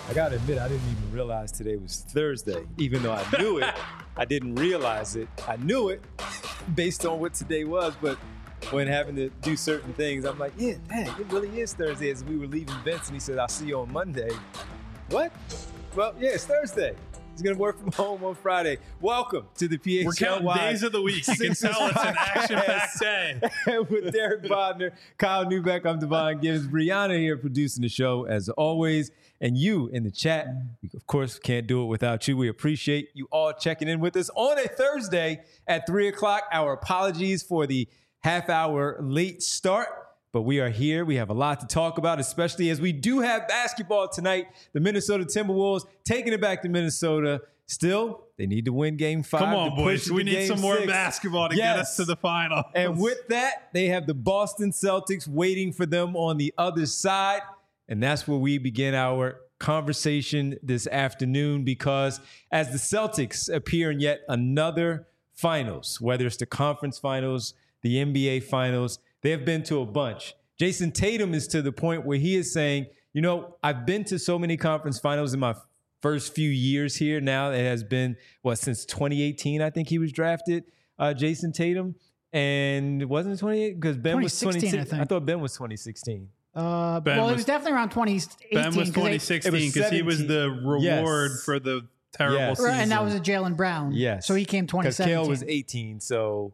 I gotta admit, I didn't even realize today was Thursday. Even though I knew it, I didn't realize it. I knew it based on what today was, but when having to do certain things, I'm like, yeah, dang, it really is Thursday. As we were leaving Vince, and he said, I'll see you on Monday. What? Well, yeah, it's Thursday. He's going to work from home on Friday. Welcome to the PHLY. We're counting days of the week. You can tell it's an action-packed day. With Derek Bodner, Kyle Neubeck, I'm Devon Gibbs. Brianna here producing the show as always. And you in the chat, we of course can't do it without you. We appreciate you all checking in with us on a Thursday at 3 o'clock. Our apologies for the half-hour late start. But we are here. We have a lot to talk about, especially as we do have basketball tonight. The Minnesota Timberwolves taking it back to Minnesota. Still, they need to win Game 5. Come on, boys. We need some more 6. basketball to get us to the final. And with that, they have the Boston Celtics waiting for them on the other side. And that's where we begin our conversation this afternoon, because as the Celtics appear in yet another finals, whether it's the conference finals, the NBA finals, they have been to a bunch. Jason Tatum is to the point where he is saying, you know, I've been to so many conference finals in my first few years here now. It has been, since 2018, I think he was drafted, Jason Tatum. And wasn't it 28? Because Ben was 2016. I thought Ben was 2016. It was definitely around 2018. Ben was 2016 because he was the reward for the terrible season. And that was a Jaylen Brown. Yes. So he came 2017. Because Kale was 18, so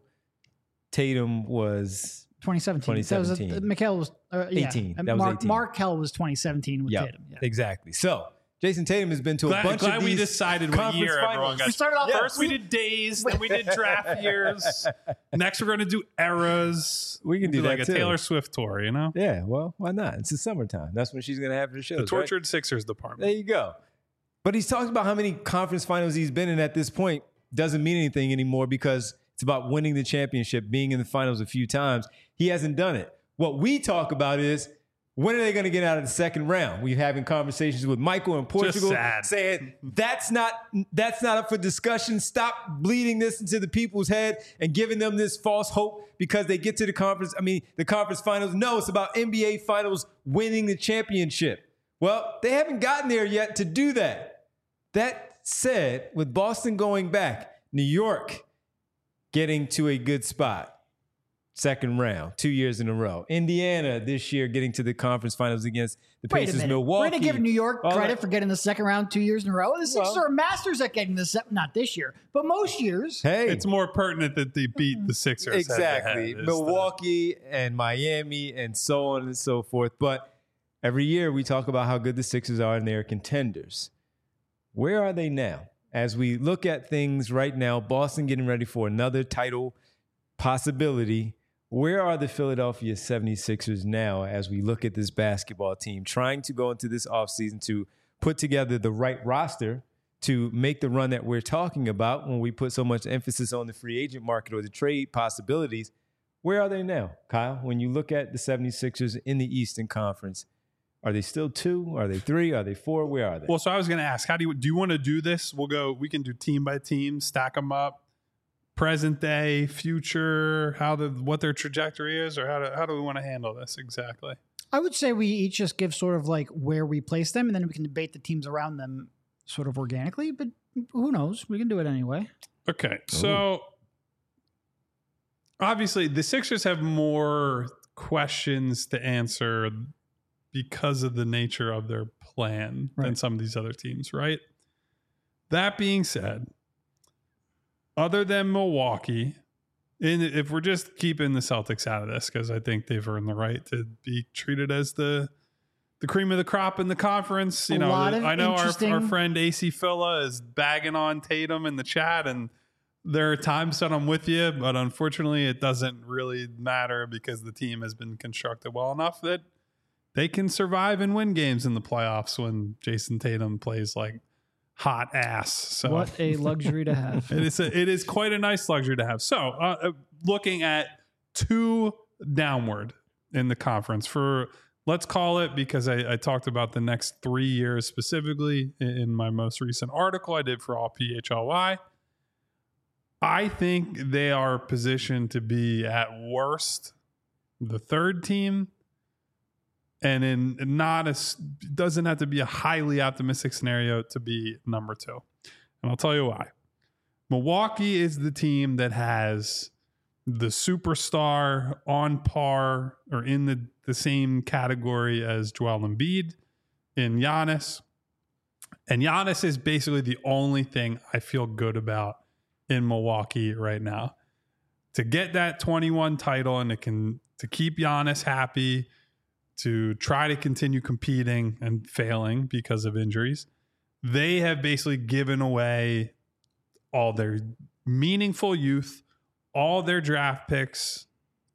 Tatum was 2017. That was Mikal was 18. That was 18. Markelle was 2017 with Tatum. Yeah, exactly. So Jason Tatum has been to a bunch of these. We decided what year everyone got. We started off first. We did days, then we did draft years. Next, we're going to do eras. We can do that like too. A Taylor Swift tour, you know? Yeah. Well, why not? It's the summertime. That's when she's going to have her shows. The Tortured right? Sixers department. There you go. But he's talking about how many conference finals he's been in at this point. Doesn't mean anything anymore because it's about winning the championship, being in the finals a few times. He hasn't done it. What we talk about is, when are they going to get out of the second round? We're having conversations with Michael in Portugal saying that's not up for discussion. Stop bleeding this into the people's head and giving them this false hope because they get to the conference finals. No, it's about NBA finals winning the championship. Well, they haven't gotten there yet to do that. That said, with Boston going back, New York getting to a good spot. Second round, 2 years in a row. Indiana this year getting to the conference finals against the Pacers. Milwaukee. We're going to give New York credit for getting the second round 2 years in a row. The Sixers are masters at getting not this year, but most years. Hey, it's more pertinent that they beat the Sixers. Exactly. Milwaukee and Miami and so on and so forth. But every year we talk about how good the Sixers are and they're contenders. Where are they now? As we look at things right now, Boston getting ready for another title possibility. Where are the Philadelphia 76ers now as we look at this basketball team trying to go into this offseason to put together the right roster to make the run that we're talking about when we put so much emphasis on the free agent market or the trade possibilities? Where are they now, Kyle? When you look at the 76ers in the Eastern Conference, are they still 2? Are they 3? Are they 4? Where are they? Well, so I was going to ask, do you want to do this? We can do team by team, stack them up. Present day, future, what their trajectory is, or how do we want to handle this exactly? I would say we each just give sort of like where we place them, and then we can debate the teams around them sort of organically, but who knows? We can do it anyway. Okay, so obviously the Sixers have more questions to answer because of the nature of their plan than some of these other teams, right? That being said, other than Milwaukee, and if we're just keeping the Celtics out of this, because I think they've earned the right to be treated as the cream of the crop in the conference. I know our friend AC Phila is bagging on Tatum in the chat, and there are times that I'm with you, but unfortunately it doesn't really matter because the team has been constructed well enough that they can survive and win games in the playoffs when Jason Tatum plays like hot ass. So what a luxury to have. It is quite a nice luxury to have. So looking at 2 downward in the conference for, let's call it, because I talked about the next 3 years specifically in my most recent article I did for all PHLY. I think they are positioned to be at worst the 3rd team and doesn't have to be a highly optimistic scenario to be number 2. And I'll tell you why. Milwaukee is the team that has the superstar on par or in the same category as Joel Embiid in Giannis. And Giannis is basically the only thing I feel good about in Milwaukee right now. To get that 21 title and to keep Giannis happy, to try to continue competing and failing because of injuries, they have basically given away all their meaningful youth, all their draft picks,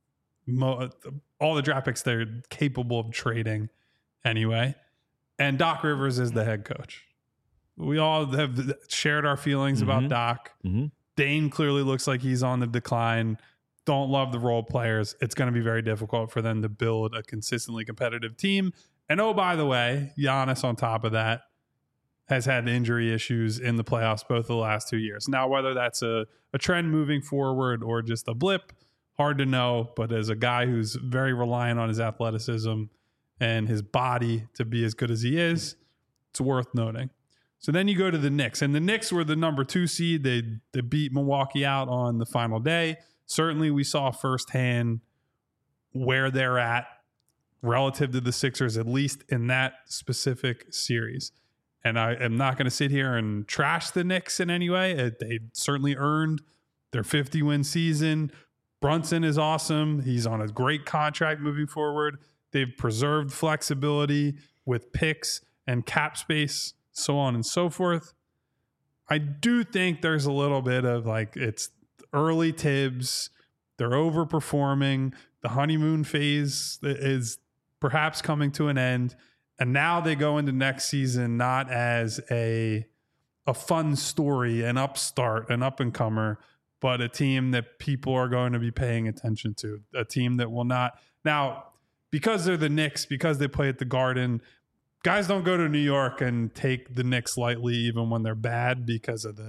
all the draft picks they're capable of trading anyway. And Doc Rivers is the head coach. We all have shared our feelings about Doc. Dane clearly looks like he's on the decline. Don't love the role players. It's going to be very difficult for them to build a consistently competitive team. And oh, by the way, Giannis on top of that has had injury issues in the playoffs both of the last 2 years. Now, whether that's a trend moving forward or just a blip, hard to know. But as a guy who's very reliant on his athleticism and his body to be as good as he is, it's worth noting. So then you go to the Knicks. And the Knicks were the number 2 seed. They beat Milwaukee out on the final day. Certainly we saw firsthand where they're at relative to the Sixers, at least in that specific series. And I am not going to sit here and trash the Knicks in any way. They certainly earned their 50-win season. Brunson is awesome. He's on a great contract moving forward. They've preserved flexibility with picks and cap space, so on and so forth. I do think there's a little bit of like it's early Tibbs. They're overperforming. The honeymoon phase is perhaps coming to an end. And now they go into next season not as a fun story, an upstart, an up-and-comer, but a team that people are going to be paying attention to. A team that will not... Now, because they're the Knicks, because they play at the Garden, guys don't go to New York and take the Knicks lightly even when they're bad because of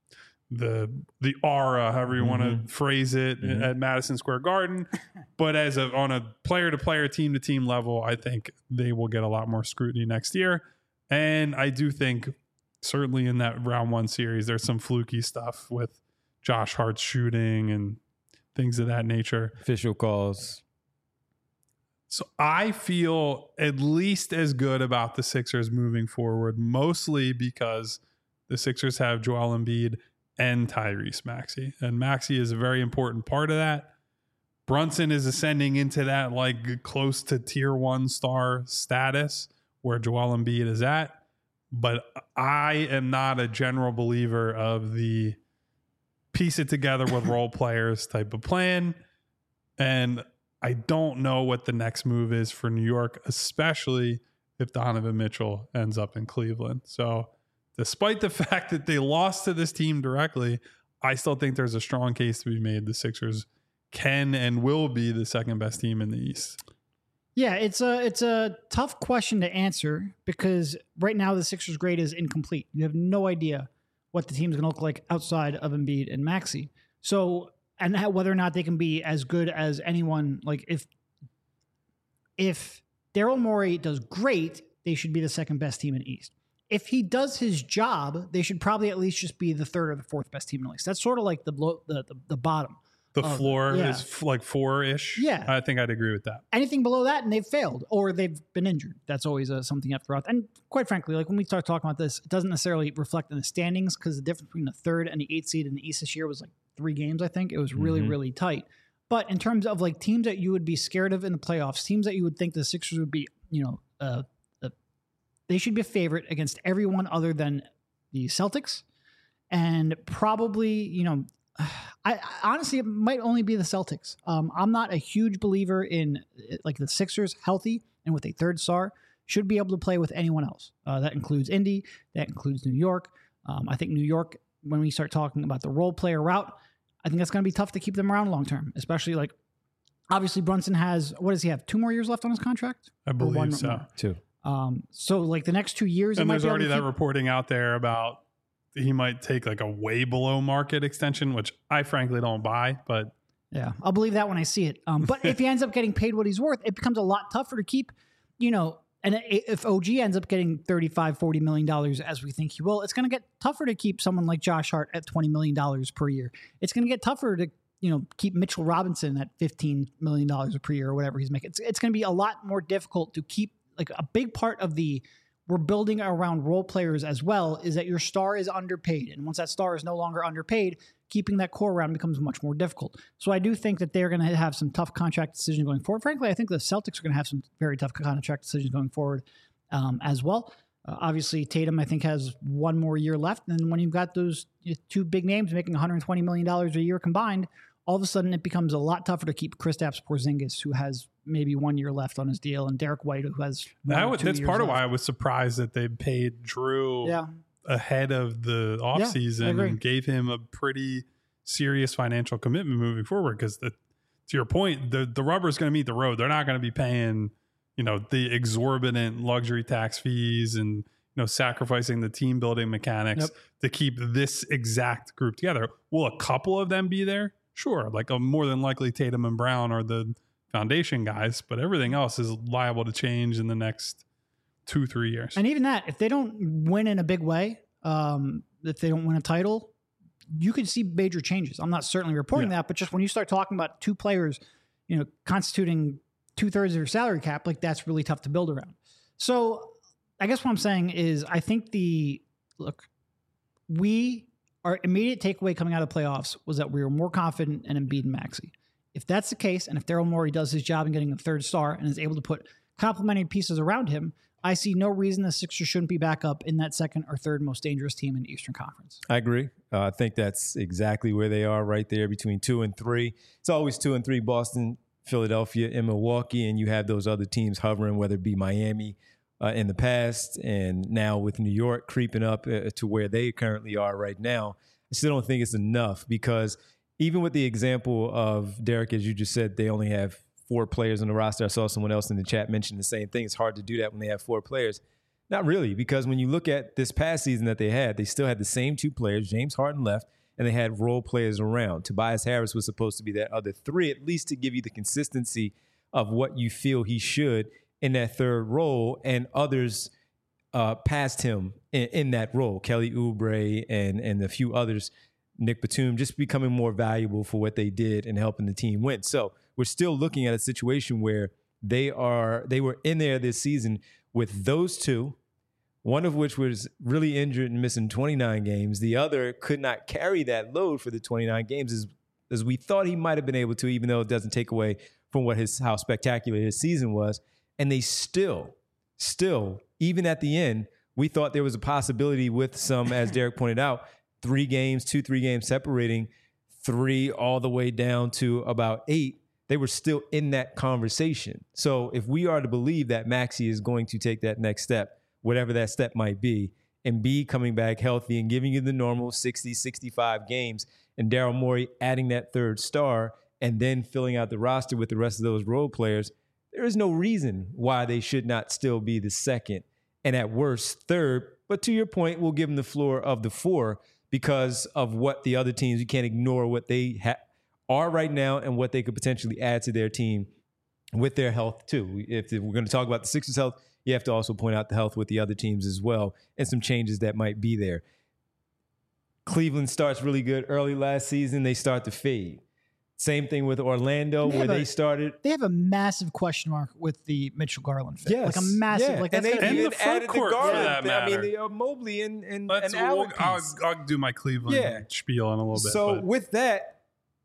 the aura, however you want to phrase it, at Madison Square Garden. But on a player-to-player, team-to-team level, I think they will get a lot more scrutiny next year. And I do think certainly in that round 1 series, there's some fluky stuff with Josh Hart's shooting and things of that nature. Official calls. So I feel at least as good about the Sixers moving forward, mostly because the Sixers have Joel Embiid and Tyrese Maxey. And Maxey is a very important part of that. Brunson is ascending into that like close to tier 1 star status where Joel Embiid is at. But I am not a general believer of the piece it together with role players type of plan. And I don't know what the next move is for New York, especially if Donovan Mitchell ends up in Cleveland. So despite the fact that they lost to this team directly, I still think there's a strong case to be made. The Sixers can and will be the second best team in the East. Yeah, it's a tough question to answer because right now the Sixers grade is incomplete. You have no idea what the team's going to look like outside of Embiid and Maxey. So, and whether or not they can be as good as anyone, like if Daryl Morey does great, they should be the second best team in the East. If he does his job, they should probably at least just be the third or the fourth best team in the East. That's sort of like the bottom. The floor is like 4-ish. Yeah. I think I'd agree with that. Anything below that, and they've failed or they've been injured. That's always something you have to throw out. And quite frankly, like when we start talking about this, it doesn't necessarily reflect in the standings because the difference between the 3rd and the 8th seed in the East this year was like 3 games, I think. It was really, really tight. But in terms of like teams that you would be scared of in the playoffs, teams that you would think the Sixers would be, they should be a favorite against everyone other than the Celtics. And probably, I honestly, it might only be the Celtics. I'm not a huge believer in like the Sixers healthy and with a 3rd star should be able to play with anyone else. That includes Indy. That includes New York. I think New York, when we start talking about the role player route, I think that's going to be tough to keep them around long term, especially like obviously Brunson has, what does he have? 2 more years left on his contract? I believe so. More? 2. So like the next 2 years. And there's already that reporting out there about he might take like a way below market extension, which I frankly don't buy, but yeah, I'll believe that when I see it. But if he ends up getting paid what he's worth, it becomes a lot tougher to keep, and if OG ends up getting $35-40 million as we think he will, it's going to get tougher to keep someone like Josh Hart at $20 million per year. It's going to get tougher to keep Mitchell Robinson at $15 million per year or whatever he's making. It's going to be a lot more difficult to keep, like, a big part of we're building around role players as well is that your star is underpaid. And once that star is no longer underpaid, keeping that core around becomes much more difficult. So I do think that they're going to have some tough contract decisions going forward. Frankly, I think the Celtics are going to have some very tough contract decisions going forward as well. Obviously, Tatum, I think, has one more year left. And when you've got those two big names making $120 million a year combined, all of a sudden it becomes a lot tougher to keep Kristaps Porzingis, who has maybe 1 year left on his deal, and Derek White, who has that's part of why I was surprised that they paid Drew ahead of the offseason and gave him a pretty serious financial commitment moving forward. Because to your point, the rubber is going to meet the road. They're not going to be paying the exorbitant luxury tax fees and sacrificing the team building mechanics to keep this exact group together. Will a couple of them be there? Sure, like more than likely Tatum and Brown are the foundation guys, but everything else is liable to change in the next 2-3 years. And even that, if they don't win in a big way, if they don't win a title, you could see major changes. I'm not certainly reporting that, but just when you start talking about two players, constituting 2/3 of your salary cap, like, that's really tough to build around. So I guess what I'm saying is I think our immediate takeaway coming out of the playoffs was that we were more confident in Embiid and Maxey. If that's the case, and if Daryl Morey does his job in getting a third star and is able to put complementary pieces around him, I see no reason the Sixers shouldn't be back up in that second or third most dangerous team in the Eastern Conference. I agree. I think that's exactly where they are, right there between 2 and 3. It's always 2 and 3, Boston, Philadelphia, and Milwaukee, and you have those other teams hovering, whether it be Miami in the past and now with New York creeping up to where they currently are right now. I still don't think it's enough, because even with the example of Derek, as you just said, they only have 4 players on the roster. I saw someone else in the chat mention the same thing. It's hard to do that when they have 4 players. Not really, because when you look at this past season that they still had the same 2 players. James Harden left, and they had role players around. Tobias Harris was supposed to be that other 3, at least to give you the consistency of what you feel he should in that third role, and others past him in that role. Kelly Oubre and a few others, Nick Batum, just becoming more valuable for what they did and helping the team win. So we're still looking at a situation where they were in there this season with those 2, one of which was really injured and missing 29 games. The other could not carry that load for the 29 games as we thought he might have been able to, even though it doesn't take away from how spectacular his season was. And they still, even at the end, we thought there was a possibility with some, as Derek pointed out, 3 games separating 3 all the way down to about 8. They were still in that conversation. So if we are to believe that Maxey is going to take that next step, whatever that step might be, and be coming back healthy and giving you the normal 60, 65 games, and Daryl Morey adding that third star and then filling out the roster with the rest of those role players, there is no reason why they should not still be the second and at worst third. But to your point, we'll give them the floor of the 4 because of what the other teams, you can't ignore what they are right now and what they could potentially add to their team with their health too. If we're going to talk about the Sixers' health, you have to also point out the health with the other teams as well and some changes that might be there. Cleveland starts really good early last season. They start to fade. Same thing with Orlando, where they started. They have a massive question mark with the Mitchell Garland fit. Yes. Like a massive. Like and that's they even added the Garland. For that matter. I mean, the Mobley and I'll do my Cleveland spiel in a little bit. So with that,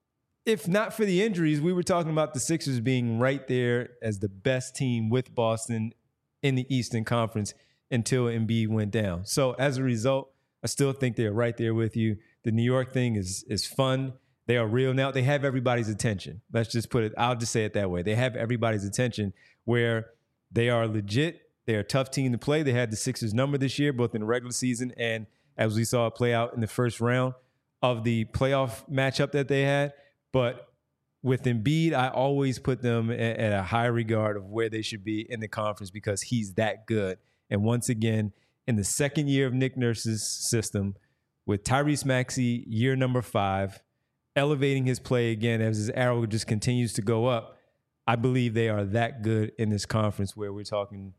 if not for the injuries, we were talking about the Sixers being right there as the best team with Boston in the Eastern Conference until Embiid went down. So as a result, I still think they're right there with you. The New York thing is fun. They are real now. They have everybody's attention. Let's just put it, I'll just say it that way. They have everybody's attention where they are legit. They're a tough team to play. They had the Sixers number this year, both in the regular season and as we saw it play out in the first round of the playoff matchup that they had. But with Embiid, I always put them at a high regard of where they should be in the conference because he's that good. And once again, in the second year of Nick Nurse's system, with Tyrese Maxey, year number 5, elevating his play again as his arrow just continues to go up, I believe they are that good in this conference where we're talking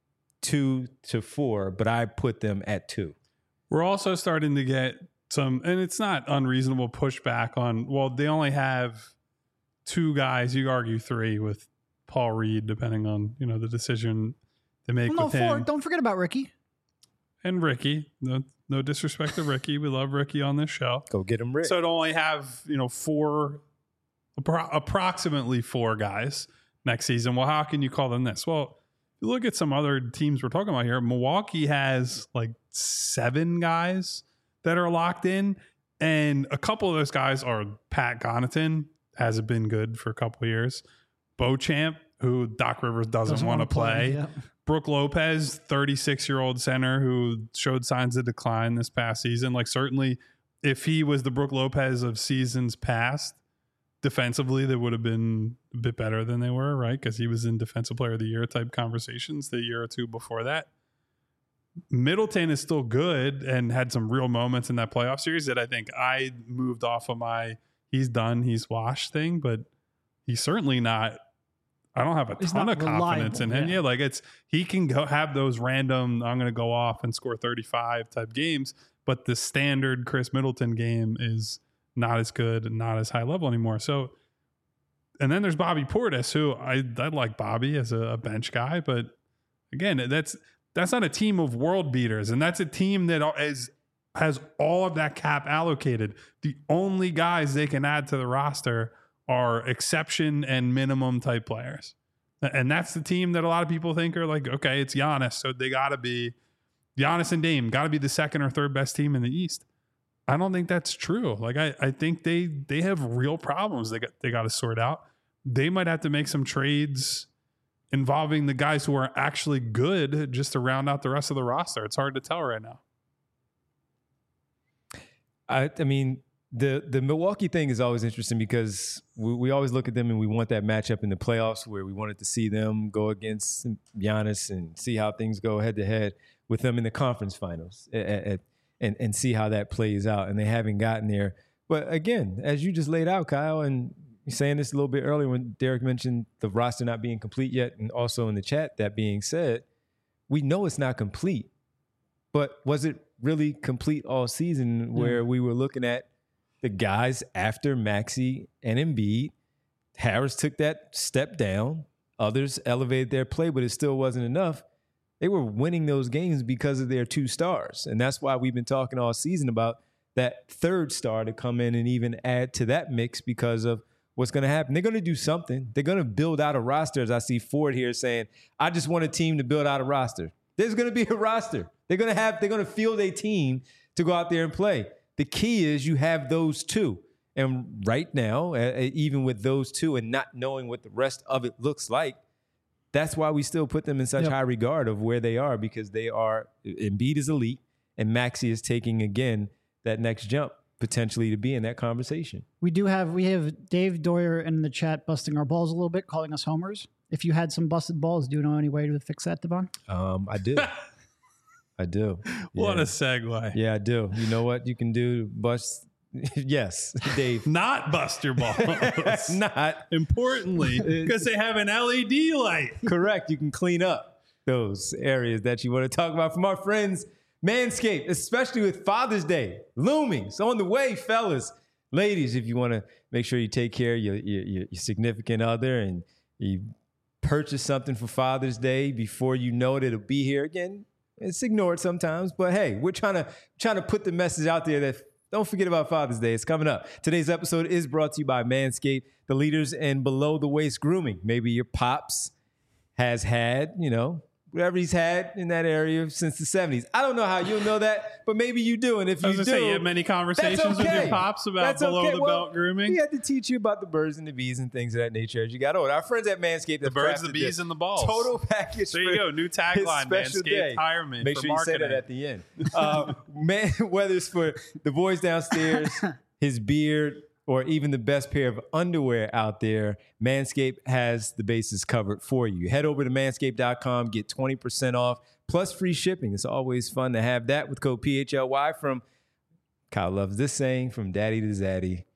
2 to 4, but I put them at 2. We're also starting to get some, and it's not unreasonable pushback on, well, they only have 2 guys, you argue 3 with Paul Reed, depending on, the decision they make with him. 4. Don't forget about Ricky. And Ricky. No disrespect to Ricky. We love Ricky on this show. Go get him, Rick. So to only have, 4, approximately 4 guys next season. Well, how can you call them this? Well, if you look at some other teams we're talking about here, Milwaukee has like 7 guys that are locked in. And a couple of those guys are Pat Connaughton, hasn't been good for a couple of years. Beauchamp, who Doc Rivers doesn't want to play. Yeah. Brooke Lopez, 36-year-old center who showed signs of decline this past season. Like, certainly, if he was the Brooke Lopez of seasons past, defensively, they would have been a bit better than they were, right? Because he was in Defensive Player of the Year type conversations the year or 2 before that. Middleton is still good and had some real moments in that playoff series that I think I moved off of my he's done, he's washed thing, but he's certainly not. I don't have a ton of confidence in him. Yeah, like he can go have those random, I'm going to go off and score 35 type games, but the standard Chris Middleton game is not as good and not as high level anymore. So, and then there's Bobby Portis, who I like Bobby as a bench guy, but again, that's not a team of world beaters, and that's a team that has all of that cap allocated. The only guys they can add to the roster are exception and minimum type players. And that's the team that a lot of people think are like, okay, it's Giannis, so they got to be Giannis and Dame got to be the second or third best team in the East. I don't think that's true. Like I think they have real problems they got to sort out. They might have to make some trades involving the guys who are actually good just to round out the rest of the roster. It's hard to tell right now. I mean, the Milwaukee thing is always interesting because we always look at them and we want that matchup in the playoffs where we wanted to see them go against Giannis and see how things go head to head with them in the conference finals and see how that plays out. And they haven't gotten there. But again, as you just laid out, Kyle, and you're saying this a little bit earlier when Derek mentioned the roster not being complete yet, and also in the chat, that being said, we know it's not complete. But was it really complete all season where we were looking at the guys after Maxey and Embiid? Harris took that step down. Others elevated their play, but it still wasn't enough. They were winning those games because of their 2 stars. And that's why we've been talking all season about that third star to come in and even add to that mix because of what's going to happen. They're going to do something. They're going to build out a roster, as I see Ford here saying, I just want a team to build out a roster. There's going to be a roster. They're going to field a team to go out there and play. The key is you have those 2. And right now, even with those 2 and not knowing what the rest of it looks like, that's why we still put them in such high regard of where they are, because they are, Embiid is elite and Maxey is taking, again, that next jump potentially to be in that conversation. We have Dave Doyer in the chat busting our balls a little bit, calling us homers. If you had some busted balls, do you know any way to fix that, Devon? I do. I do. What a segue. Yeah, I do. You know what you can do to bust? Yes, Dave. Not bust your balls. Not. Importantly, because they have an LED light. Correct. You can clean up those areas that you want to talk about from our friends Manscaped, especially with Father's Day looming. So on the way, fellas, ladies, if you want to make sure you take care of your significant other and you purchase something for Father's Day before you know it, it'll be here again. It's ignored sometimes, but hey, we're trying to put the message out there that don't forget about Father's Day. It's coming up. Today's episode is brought to you by Manscaped, the leaders in below the waist grooming. Maybe your pops has had, whatever he's had in that area since the 70s. I don't know how you'll know that, but maybe you do. And if you do, you have many conversations with your pops about below the belt grooming. We had to teach you about the birds and the bees and things of that nature as you got older. Our friends at Manscaped, the birds, the bees, and the balls. Total package. There you go. New tagline, Manscaped. Hire me. Make sure you say that at the end. Whether it's for the boys downstairs, his beard, or even the best pair of underwear out there, Manscaped has the bases covered for you. Head over to manscaped.com, get 20% off, plus free shipping. It's always fun to have that with code PHLY from, Kyle loves this saying, from daddy to zaddy.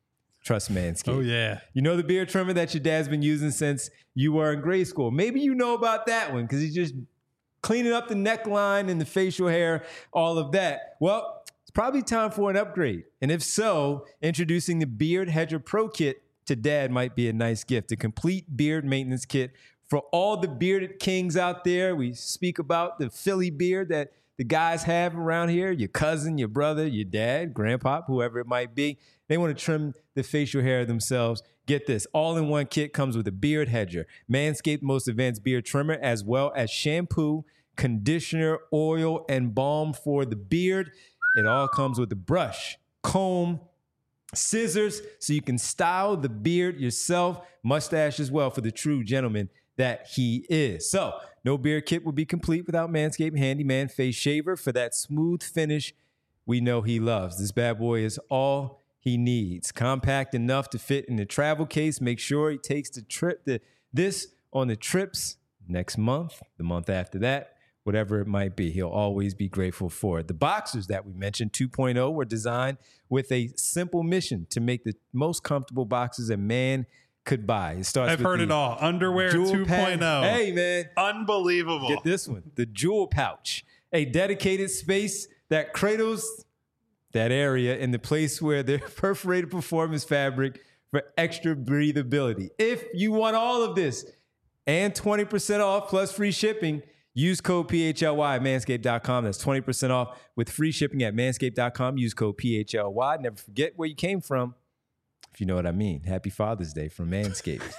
trust Manscaped. Oh, yeah. You know the beard trimmer that your dad's been using since you were in grade school. Maybe you know about that one because he's just cleaning up the neckline and the facial hair, all of that. Well, it's probably time for an upgrade. And if so, introducing the Beard Hedger Pro Kit to dad might be a nice gift. A complete beard maintenance kit for all the bearded kings out there. We speak about the Philly beard that the guys have around here, your cousin, your brother, your dad, grandpa, whoever it might be. They want to trim the facial hair themselves. Get this, all-in-one kit comes with a beard hedger, Manscaped most advanced beard trimmer, as well as shampoo, conditioner, oil, and balm for the beard. It all comes with a brush, comb, scissors, so you can style the beard yourself, mustache as well for the true gentleman that he is. So, no beard kit would be complete without Manscaped Handyman Face Shaver for that smooth finish we know he loves. This bad boy is all he needs. Compact enough to fit in the travel case. Make sure he takes this on the trips next month, the month after that, whatever it might be. He'll always be grateful for it. The boxers that we mentioned, 2.0, were designed with a simple mission to make the most comfortable boxers a man could buy. It starts I've with heard it all. Underwear 2.0. Hey, man. Unbelievable. Get this one. The Jewel Pouch, a dedicated space that cradles that area in the place where their perforated performance fabric for extra breathability. If you want all of this and 20% off plus free shipping, use code PHLY at manscaped.com. That's 20% off with free shipping at manscaped.com. Use code PHLY. Never forget where you came from, if you know what I mean. Happy Father's Day from Manscaped.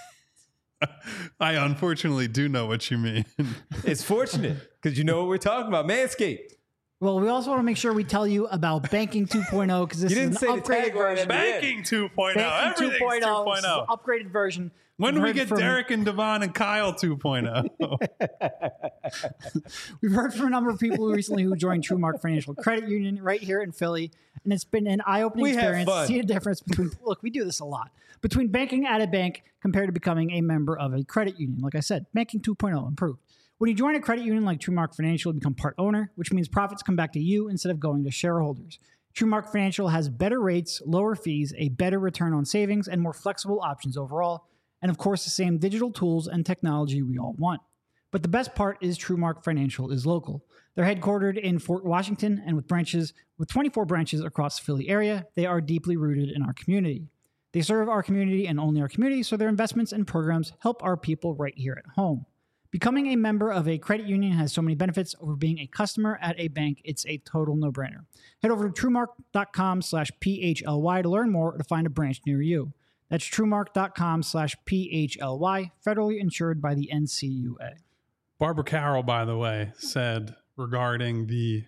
I unfortunately do know what you mean. It's fortunate because you know what we're talking about. Manscaped. Well, we also want to make sure we tell you about Banking 2.0 because this You didn't is say an the upgraded tagline version. at the end. Banking 2.0. Banking Everything's 2.0. This is an 2.0. upgraded version. When do We've we heard get from- Derek and Devon and Kyle 2.0? We've heard from a number of people recently who joined TrueMark Financial Credit Union right here in Philly, and it's been an eye-opening We have experience to fun. see the difference between. Look, we do this a lot between banking at a bank compared to becoming a member of a credit union. Like I said, Banking 2.0 improved. When you join a credit union like TrueMark Financial, you become part owner, which means profits come back to you instead of going to shareholders. TrueMark Financial has better rates, lower fees, a better return on savings, and more flexible options overall. And of course, the same digital tools and technology we all want. But the best part is TrueMark Financial is local. They're headquartered in Fort Washington, and with 24 branches across the Philly area, they are deeply rooted in our community. They serve our community and only our community, so their investments and programs help our people right here at home. Becoming a member of a credit union has so many benefits over being a customer at a bank. It's a total no-brainer. Head over to truemark.com/PHLY to learn more or to find a branch near you. That's truemark.com/PHLY, federally insured by the NCUA. Barbara Carroll, by the way, said regarding the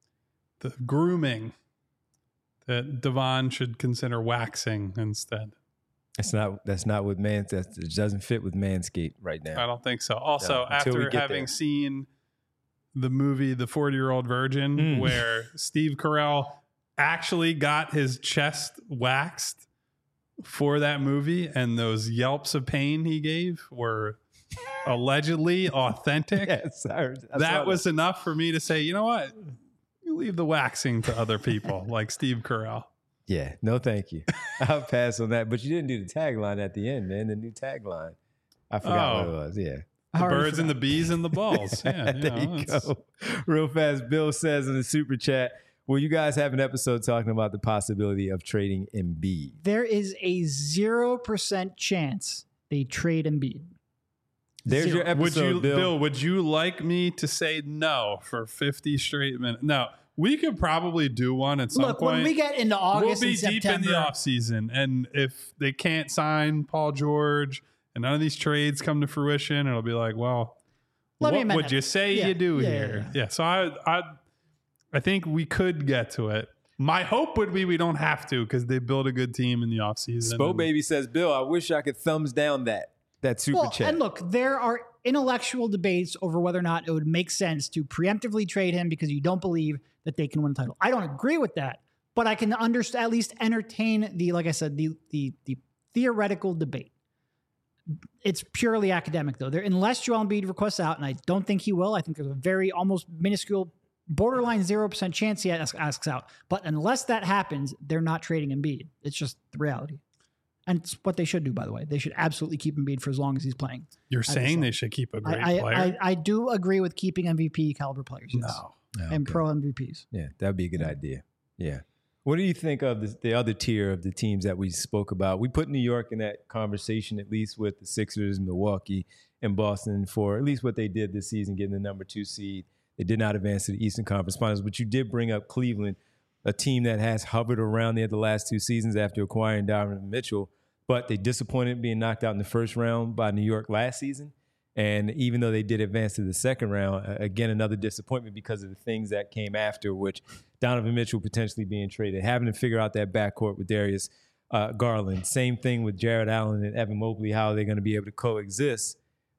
grooming that Devon should consider waxing instead. That's not what it doesn't fit with Manscaped right now. I don't think so. Also, until we after get having there. seen the movie The 40-Year-Old Virgin, where Steve Carell actually got his chest waxed for that movie, and those yelps of pain he gave were allegedly authentic. Yes, I saw That was enough for me to say, you know what? You leave the waxing to other people like Steve Carell. Yeah, no thank you. I'll pass on that. But you didn't do the tagline at the end, man. The new tagline. I forgot what it was. Yeah. The birds and the bees and the balls. Yeah, There you it's- go. Real fast, Bill says in the super chat, will you guys have an episode talking about the possibility of trading Embiid? There is a 0% chance they trade Embiid. There's Zero. your episode, Bill. Would you like me to say no for 50 straight minutes? No, we could probably do one at some Look, point. when we get into We'll August be and deep September, in the offseason. And if they can't sign Paul George and none of these trades come to fruition, it'll be like, well, Let me what amend would that. you say Yeah, you do yeah, here? yeah. Yeah. So I think we could get to it. My hope would be we don't have to because they build a good team in the offseason. Spo Baby says, Bill, I wish I could thumbs down that super chat. And look, there are intellectual debates over whether or not it would make sense to preemptively trade him because you don't believe that they can win a title. I don't agree with that, but I can understand, at least entertain the, like I said, the theoretical debate. It's purely academic, though. Unless Joel Embiid requests out, and I don't think he will. I think there's a very almost minuscule, borderline 0% chance he asks out. But unless that happens, they're not trading Embiid. It's just the reality. And it's what they should do, by the way. They should absolutely keep Embiid for as long as he's playing. You're saying they should keep a great player? I do agree with keeping MVP caliber players. Yes. No. And pro MVPs. Yeah, that would be a good idea. Yeah. What do you think of the other tier of the teams that we spoke about? We put New York in that conversation, at least with the Sixers, Milwaukee, and Boston for at least what they did this season, getting the number 2 seed. They did not advance to the Eastern Conference Finals, but you did bring up Cleveland, a team that has hovered around there the last 2 seasons after acquiring Donovan Mitchell, but they disappointed being knocked out in the first round by New York last season. And even though they did advance to the second round, again, another disappointment because of the things that came after, which Donovan Mitchell potentially being traded, having to figure out that backcourt with Darius Garland. Same thing with Jared Allen and Evan Mobley, how they're going to be able to coexist.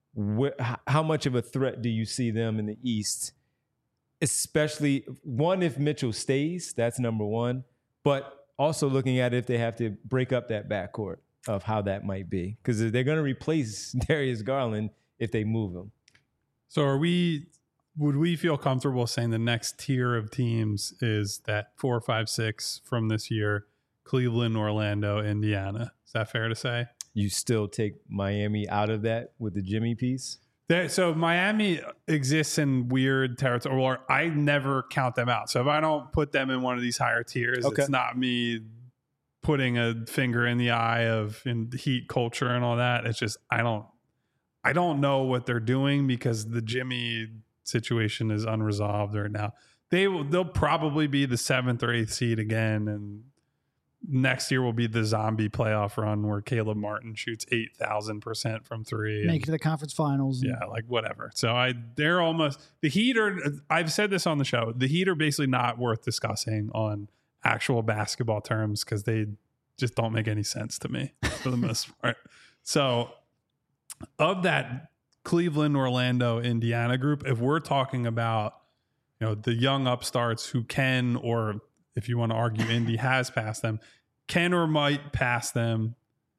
How much of a threat do you see them in the East? Especially, one, if Mitchell stays, that's number one. But also looking at if they have to break up that backcourt of how that might be. Because they're going to replace Darius Garland if they move him. So would we feel comfortable saying the next tier of teams is that 4, 5, 6 from this year, Cleveland, Orlando, Indiana? Is that fair to say? You still take Miami out of that with the Jimmy piece? So Miami exists in weird territory, or I never count them out. So if I don't put them in one of these higher tiers, It's not me putting a finger in the eye of in the Heat culture and all that. It's just I don't know what they're doing because the Jimmy situation is unresolved right now. They'll probably be the 7th or 8th seed again, and next year will be the zombie playoff run where Caleb Martin shoots 8,000% from 3. Make it to the conference finals. Yeah, like whatever. So they're almost the Heat are. I've said this on the show. The Heat are basically not worth discussing on actual basketball terms because they just don't make any sense to me for the most part. So of that Cleveland, Orlando, Indiana group, if we're talking about the young upstarts who can, or if you want to argue Indy has passed them, can or might pass them,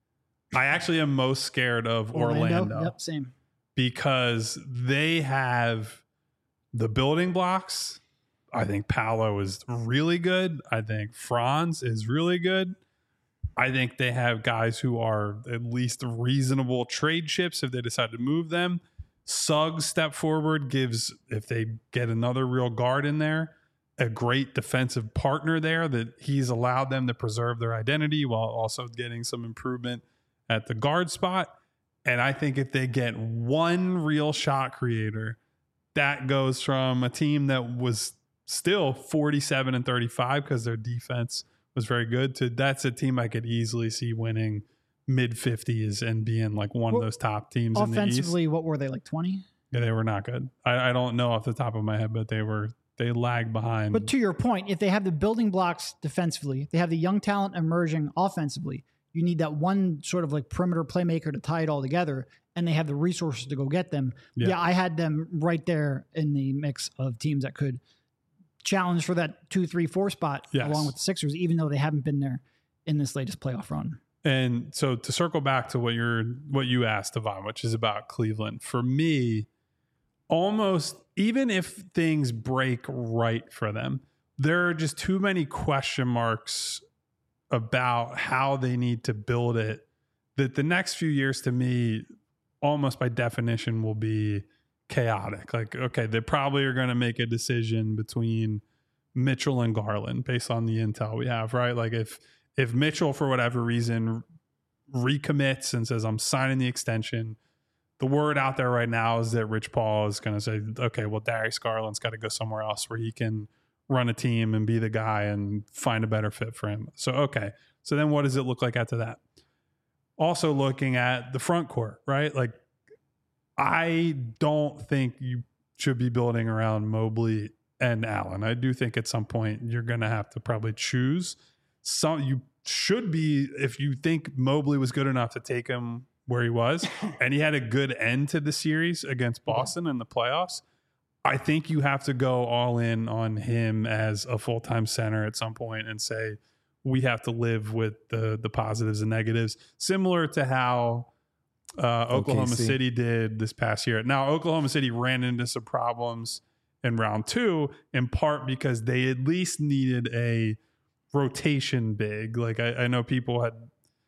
I actually am most scared of Orlando. Yep, same. Because they have the building blocks. I think Paolo is really good. I think Franz is really good. I think they have guys who are at least reasonable trade chips if they decide to move them. Suggs step forward gives, if they get another real guard in there, a great defensive partner there that he's allowed them to preserve their identity while also getting some improvement at the guard spot. And I think if they get one real shot creator, that goes from a team that was still 47-35 because their defense was very good to that's a team I could easily see winning mid-50s and being like one of those top teams in the East. Offensively, what were they, like 20? Yeah, they were not good. I don't know off the top of my head, but they lagged behind. But to your point, if they have the building blocks defensively, they have the young talent emerging offensively, you need that one sort of like perimeter playmaker to tie it all together, and they have the resources to go get them. Yeah, I had them right there in the mix of teams that could challenge for that 2, 3, 4 spot along with the Sixers, even though they haven't been there in this latest playoff run. And so to circle back to what you asked, Devon, which is about Cleveland, for me, almost even if things break right for them, there are just too many question marks about how they need to build it that the next few years to me, almost by definition, will be chaotic. Like, okay, they probably are going to make a decision between Mitchell and Garland based on the intel we have, right? Like if Mitchell, for whatever reason, recommits and says, I'm signing the extension, the word out there right now is that Rich Paul is going to say, okay, well, Darius Garland's got to go somewhere else where he can run a team and be the guy and find a better fit for him. So, okay. So then what does it look like after that? Also looking at the front court, right? Like, I don't think you should be building around Mobley and Allen. I do think at some point you're going to have to probably choose. You should be, if you think Mobley was good enough to take him where he was, and he had a good end to the series against Boston in the playoffs, I think you have to go all in on him as a full-time center at some point and say, we have to live with the positives and negatives, similar to how Oklahoma City did this past year. Now, Oklahoma City ran into some problems in round 2, in part because they at least needed a rotation big. Like I know people had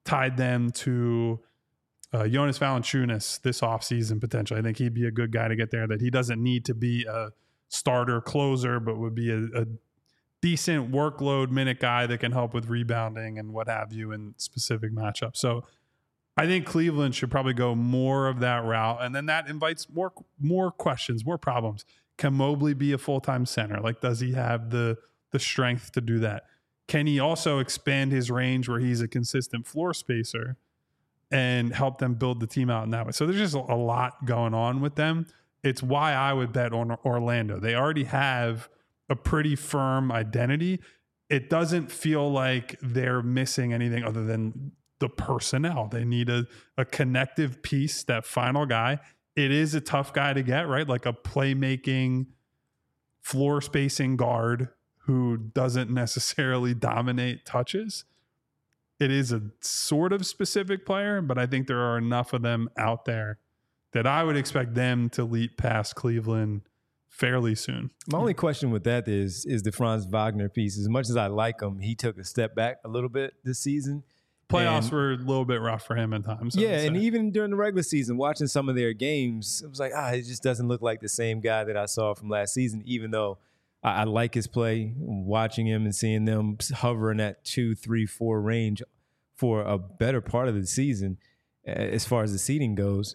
tied them to Jonas Valanciunas this offseason potentially. I think he'd be a good guy to get there, that he doesn't need to be a starter closer, but would be a decent workload minute guy that can help with rebounding and what have you in specific matchups. So I think Cleveland should probably go more of that route. And then that invites more questions, more problems. Can Mobley be a full-time center? Like, does he have the strength to do that? Can he also expand his range where he's a consistent floor spacer and help them build the team out in that way? So there's just a lot going on with them. It's why I would bet on Orlando. They already have a pretty firm identity. It doesn't feel like they're missing anything other than the personnel. They need a connective piece, that final guy. It is a tough guy to get, right? Like a playmaking, floor spacing guard who doesn't necessarily dominate touches. It is a sort of specific player, but I think there are enough of them out there that I would expect them to leap past Cleveland fairly soon. My only question with that is the Franz Wagner piece. As much as I like him, he took a step back a little bit this season. Playoffs were a little bit rough for him at times. Yeah, and even during the regular season, watching some of their games, it was like, it just doesn't look like the same guy that I saw from last season, even though I like his play, watching him and seeing them hover in that 2, 3, 4 range for a better part of the season as far as the seeding goes.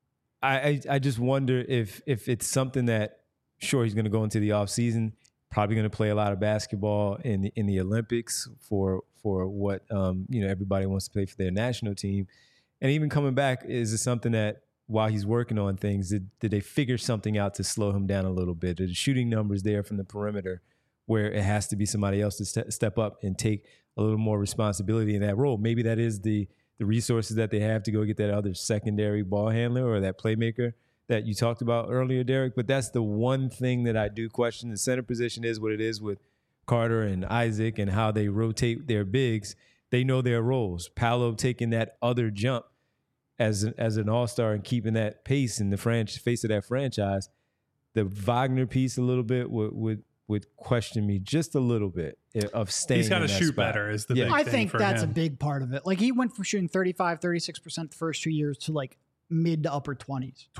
I just wonder if it's something that, sure, he's going to go into the offseason, probably going to play a lot of basketball in the Olympics for what everybody wants to play for their national team. And even coming back, is it something that while he's working on things, did they figure something out to slow him down a little bit? Are the shooting numbers there from the perimeter where it has to be somebody else to step up and take a little more responsibility in that role? Maybe that is the resources that they have to go get that other secondary ball handler or that playmaker that you talked about earlier, Derek. But that's the one thing that I do question. The center position is what it is with Carter and Isaac and how they rotate their bigs. They know their roles. Paolo taking that other jump as an all-star and keeping that pace in the face of that franchise. The Wagner piece a little bit would question me just a little bit of staying. He's got to shoot spot. better is the big thing I think for that's him. a big part of it. Like, he went from shooting 35, 36% the first 2 years to like mid to upper 20s.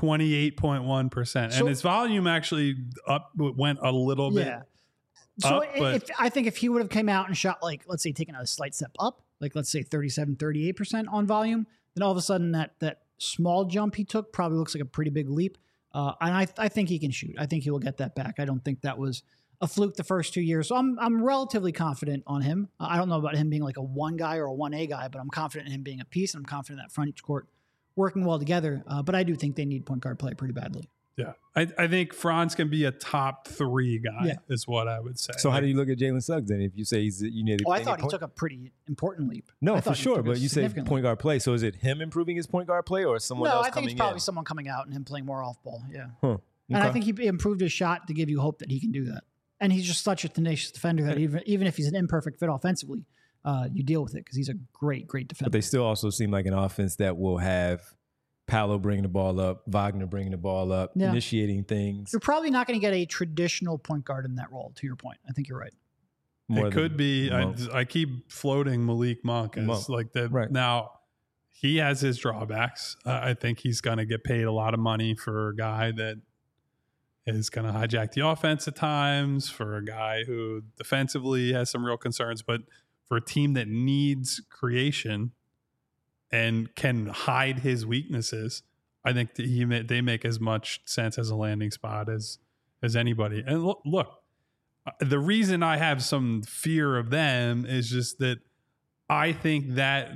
28.1%. And his volume actually went a little bit. Yeah. So up, I think if he would have came out and shot, like, let's say taken a slight step up, like let's say 37, 38% on volume, then all of a sudden that small jump he took probably looks like a pretty big leap. And I think he can shoot. I think he will get that back. I don't think that was a fluke the first 2 years. So I'm relatively confident on him. I don't know about him being like a 1 guy or a 1A guy, but I'm confident in him being a piece, and I'm confident that front court working well together. But I do think they need point guard play pretty badly. Yeah. I think Franz can be a top 3 guy is what I would say. So how do you look at Jalen Suggs then if you say you need I thought he took a pretty important leap. No, for sure. But you say point guard play. So is it him improving his point guard play or someone else coming in? No, I think it's probably someone coming out and him playing more off ball. Yeah. Huh. Okay. And I think he improved his shot to give you hope that he can do that. And he's just such a tenacious defender that even if he's an imperfect fit offensively, you deal with it because he's a great defender. But they still also seem like an offense that will have Paolo bringing the ball up, Wagner bringing the ball up, initiating things. You're probably not going to get a traditional point guard in that role, to your point. I think you're right. It could be. I keep floating Malik Monk as like the right. Now, he has his drawbacks. I think he's going to get paid a lot of money for a guy that is going to hijack the offense at times, for a guy who defensively has some real concerns, but for a team that needs creation and can hide his weaknesses, I think that they make as much sense as a landing spot as anybody. And look, the reason I have some fear of them is just that I think that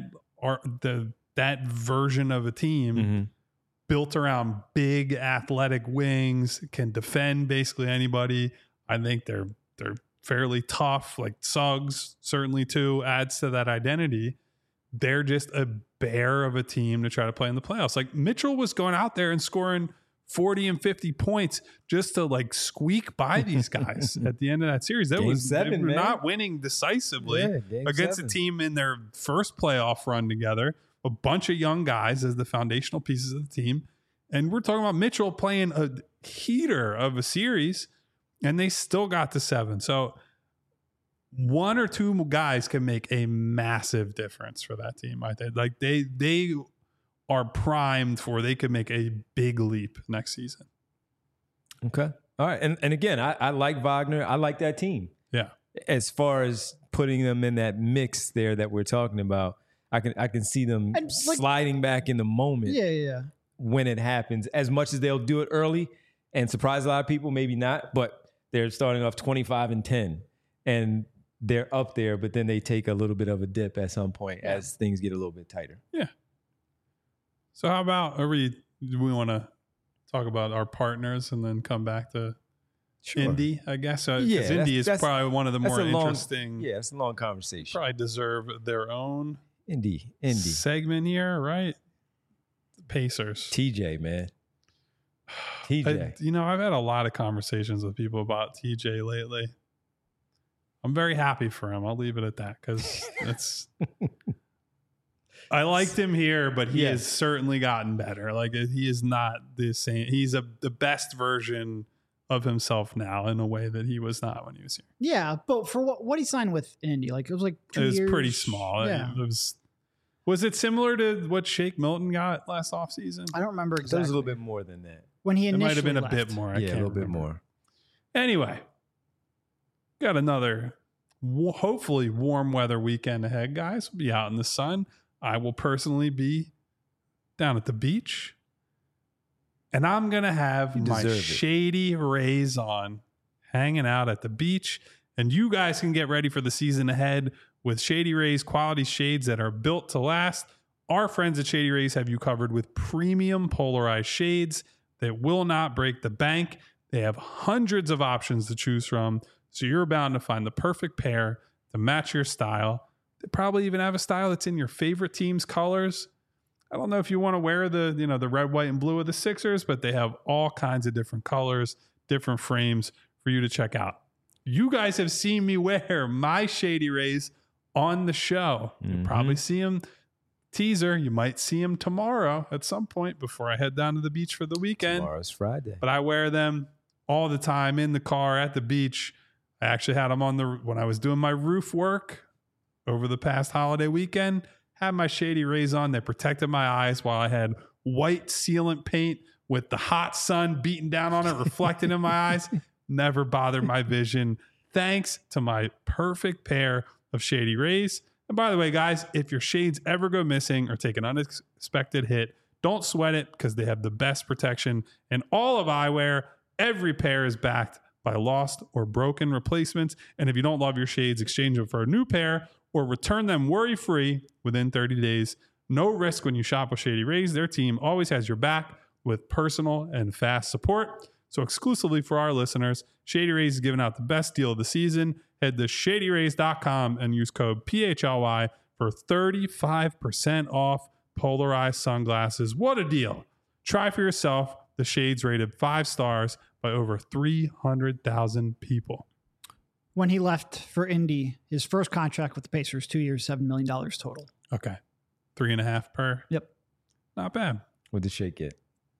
that version of a team built around big athletic wings can defend basically anybody. I think they're fairly tough, like Suggs certainly too adds to that identity. They're just a bear of a team to try to play in the playoffs. Like Mitchell was going out there and scoring 40 and 50 points just to like squeak by these guys at the end of that series. They were not winning decisively against a team in their first playoff run together, a bunch of young guys as the foundational pieces of the team. And we're talking about Mitchell playing a heater of a series, and they still got to 7. So one or two guys can make a massive difference for that team. I think like they are primed for they could make a big leap next season. Okay. All right. And again, I like Wagner. I like that team. Yeah. As far as putting them in that mix there that we're talking about, I can see them sliding back in the moment. Yeah. When it happens, as much as they'll do it early and surprise a lot of people, maybe not, but they're starting off 25-10 and they're up there, but then they take a little bit of a dip at some point as things get a little bit tighter. Yeah. So how about do we want to talk about our partners and then come back to Indy, I guess? Because Indy is probably one of the more interesting. Yeah, it's a long conversation. Probably deserve their own Indy segment here, right? Pacers. TJ, man. TJ. I've had a lot of conversations with people about TJ lately. I'm very happy for him. I'll leave it at that because it's. I liked him here, but he has certainly gotten better. Like he is not the same. He's the best version of himself now in a way that he was not when he was here. Yeah, but for what he signed with in Indy, like it was like 2 years. It was pretty small. Yeah. Was it similar to what Shake Milton got last offseason? I don't remember exactly. It was a little bit more than that. When he it initially might have been left. a bit more. I can't a little remember. bit more. Anyway, got another hopefully warm weather weekend ahead, guys. We'll be out in the sun. I will personally be down at the beach. And I'm going to have my Shady Rays on, hanging out at the beach. And you guys can get ready for the season ahead with Shady Rays quality shades that are built to last. Our friends at Shady Rays have you covered with premium polarized shades that will not break the bank. They have hundreds of options to choose from, so you're bound to find the perfect pair to match your style. They probably even have a style that's in your favorite team's colors. I don't know if you want to wear the red, white, and blue of the Sixers, but they have all kinds of different colors, different frames for you to check out. You guys have seen me wear my Shady Rays on the show. You'll probably see them teaser. You might see them tomorrow at some point before I head down to the beach for the weekend. Tomorrow's Friday. But I wear them all the time in the car at the beach. I actually had them on when I was doing my roof work over the past holiday weekend. Had my Shady Rays on. They protected my eyes while I had white sealant paint with the hot sun beating down on it, reflecting in my eyes. Never bothered my vision. Thanks to my perfect pair of Shady Rays. And by the way, guys, if your shades ever go missing or take an unexpected hit, don't sweat it because they have the best protection in all of eyewear. Every pair is backed by lost or broken replacements. And if you don't love your shades, exchange them for a new pair or return them worry-free within 30 days. No risk when you shop with Shady Rays. Their team always has your back with personal and fast support. So exclusively for our listeners, Shady Rays is giving out the best deal of the season. Head to shadyrays.com and use code PHLY for 35% off polarized sunglasses. What a deal. Try for yourself. The shades rated 5 stars by over 300,000 people. When he left for Indy, his first contract with the Pacers, 2 years, $7 million total. Okay. 3.5 per. Yep. Not bad. What did Shake get?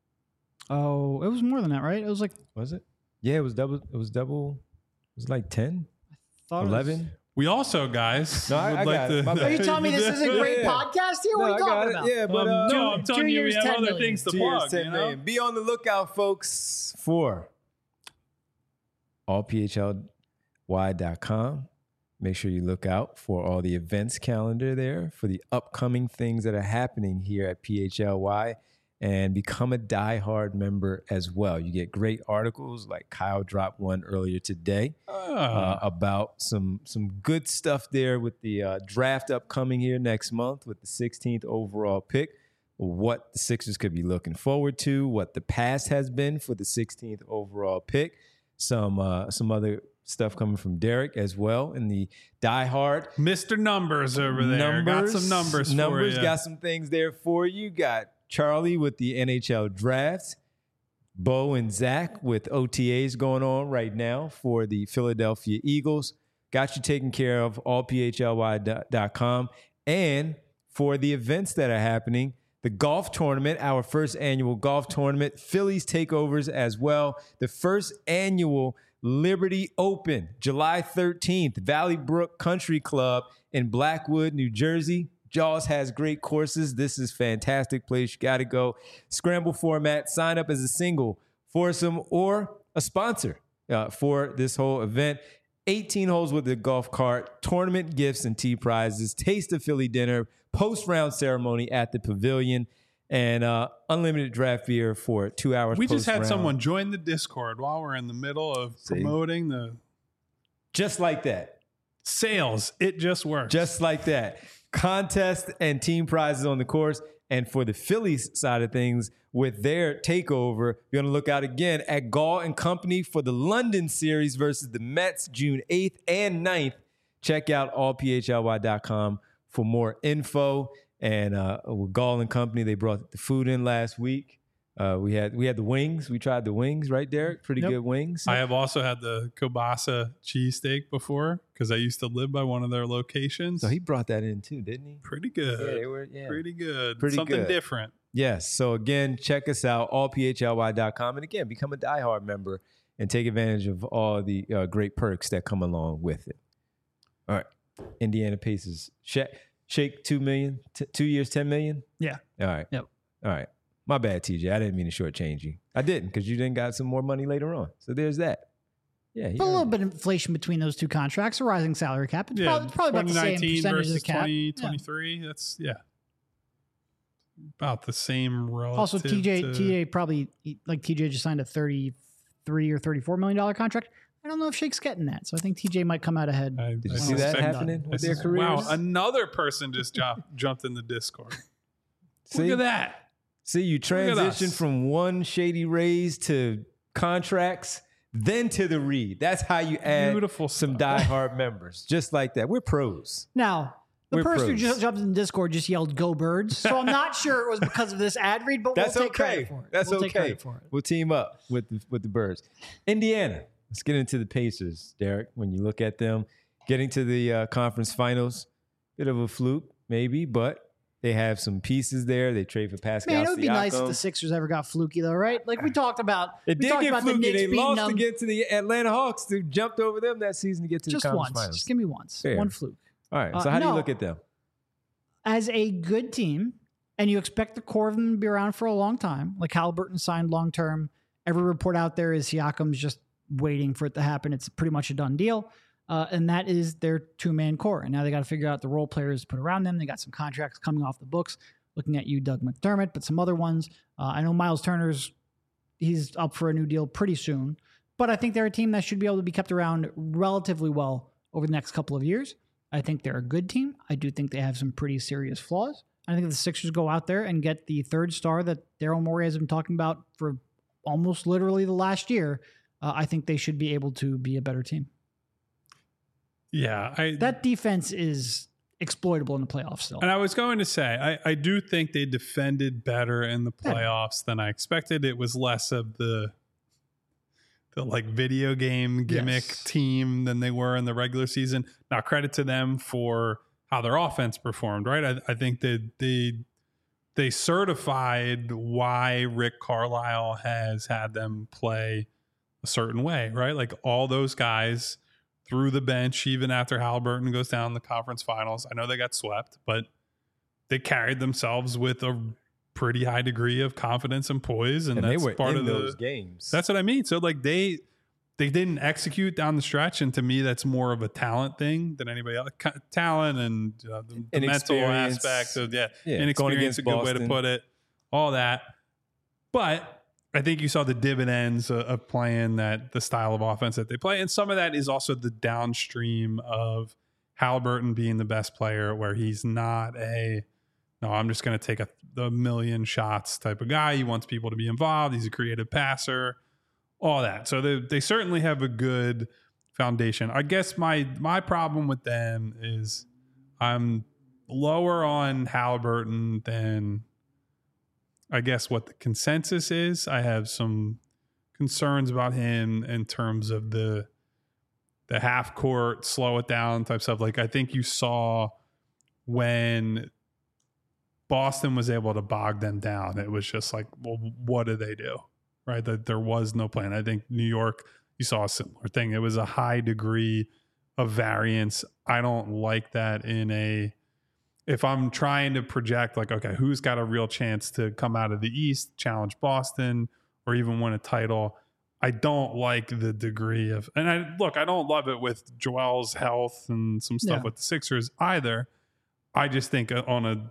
Oh, it was more than that, right? It was like... Was it? Yeah, it was double. It was double. It was like 10, 11. We also, guys, no, I got it. Are you telling me this is a great podcast here? What are you talking about? Yeah, but no, I'm telling you, we have other million. things to 2 plug. years, $10 million. Be on the lookout, folks, for allphlY.com. Make sure you look out for all the events calendar there for the upcoming things that are happening here at PHLY. And become a diehard member as well. You get great articles like Kyle dropped one earlier today about some good stuff there with the draft upcoming here next month with the 16th overall pick, what the Sixers could be looking forward to, what the past has been for the 16th overall pick, some other stuff coming from Derek as well in the diehard. Mr. Numbers over there. Got some numbers for you. Got some things there for you. Got Charlie with the NHL draft, Bo and Zach with OTAs going on right now for the Philadelphia Eagles. Got you taken care of, allphlY.com. And for the events that are happening, the golf tournament, our first annual golf tournament, Phillies takeovers as well. The first annual Liberty Open, July 13th, Valley Brook Country Club in Blackwood, New Jersey. Jaws has great courses. This is fantastic place. You got to go. Scramble format. Sign up as a single, foursome, or a sponsor for this whole event. 18 holes with the golf cart, tournament gifts and tee prizes, taste of Philly dinner, post-round ceremony at the pavilion, and unlimited draft beer for 2 hours. We just had post-round. someone join the Discord while we're in the middle of promoting the Just like that. sales. It just works. Just like that. Contest and team prizes on the course. And for the Phillies side of things, with their takeover, you're going to look out again at Gall and Company for the London series versus the Mets, June 8th and 9th. Check out allphly.com for more info. And with Gall and Company, they brought the food in last week. We had the wings. We tried the wings, right, Derek? Pretty good wings. I have also had the kielbasa cheesesteak before because I used to live by one of their locations. So he brought that in too, didn't he? Pretty good. Yeah, they were, Pretty good. Pretty Something good. different. Yes. So again, check us out, allphly.com. And again, become a diehard member and take advantage of all the great perks that come along with it. All right. Indiana Pacers. Shake 2 million, 2 years, 10 million? Yeah. All right. Yep. All right. My bad, TJ. I didn't mean to shortchange you. I didn't because you then got some more money later on. So there's that. Yeah. But a little bit of inflation between those two contracts, a rising salary cap. It's probably about the same 2019 percentage of the versus cap. 2023. That's about the same relative. Also, TJ probably, like TJ just signed a $33 or $34 million contract. I don't know if Shake's getting that. So I think TJ might come out ahead. Did you see that happening with their careers? Wow, another person just jumped in the Discord. See? Look at that. See, you transition us. from one shady raise to contracts, then to the read. That's how you add Beautiful some stuff. diehard members. Just like that. We're pros. Now, the We're person who pros. just jumped in Discord just yelled "Go Birds," so I'm not sure it was because of this ad read, but That's we'll take okay. credit for it. That's We'll take okay. credit for it. We'll team up with the Birds. Indiana. Let's get into the Pacers, Derek. When you look at them getting to the conference finals, bit of a fluke, maybe, but they have some pieces there. They trade for Pascal Man, it would be nice if Siakam. the Sixers ever got fluky, though, right? Like we talked about. It we did talked get about fluky. The Knicks They beating lost them to get to the Atlanta Hawks. They jumped over them that season to get to just the conference once. finals. Just give me once. Fair. One fluke. All right. So how do you no. look at them? As a good team, and you expect the core of them to be around for a long time. Like Halliburton signed long term. Every report out there is Siakam's just waiting for it to happen. It's pretty much a done deal. And that is their two-man core. And now they got to figure out the role players to put around them. They got some contracts coming off the books. Looking at you, Doug McDermott, but some other ones. I know Miles he's up for a new deal pretty soon. But I think they're a team that should be able to be kept around relatively well over the next couple of years. I think they're a good team. I do think they have some pretty serious flaws. I think if the Sixers go out there and get the third star that Daryl Morey has been talking about for almost literally the last year, I think they should be able to be a better team. Yeah. That defense is exploitable in the playoffs still. And I was going to say, I do think they defended better in the playoffs than I expected. It was less of the like video game gimmick team than they were in the regular season. Now, credit to them for how their offense performed, right? I think that they certified why Rick Carlisle has had them play a certain way, right? Like all those guys through the bench, even after Halliburton goes down in the conference finals. I know they got swept, but they carried themselves with a pretty high degree of confidence and poise, and that's they were part in of those games. That's what I mean. So like they didn't execute down the stretch, and to me, that's more of a talent thing than anybody else. Talent and the mental aspect of inexperience, going against a good way to Boston. put it. All that, but I think you saw the dividends of playing the style of offense that they play. And some of that is also the downstream of Halliburton being the best player, where he's not I'm just going to take a million shots type of guy. He wants people to be involved. He's a creative passer, all that. So they certainly have a good foundation. I guess my problem with them is I'm lower on Halliburton than I guess what the consensus is. I have some concerns about him in terms of the half court, slow it down type stuff. Like I think you saw when Boston was able to bog them down, it was just like, well, what do they do? Right? That there was no plan. I think New York, you saw a similar thing. It was a high degree of variance. I don't like that if I'm trying to project like, okay, who's got a real chance to come out of the East, challenge Boston, or even win a title. I don't like the degree of, and I don't love it with Joel's health and some stuff with the Sixers either. I just think on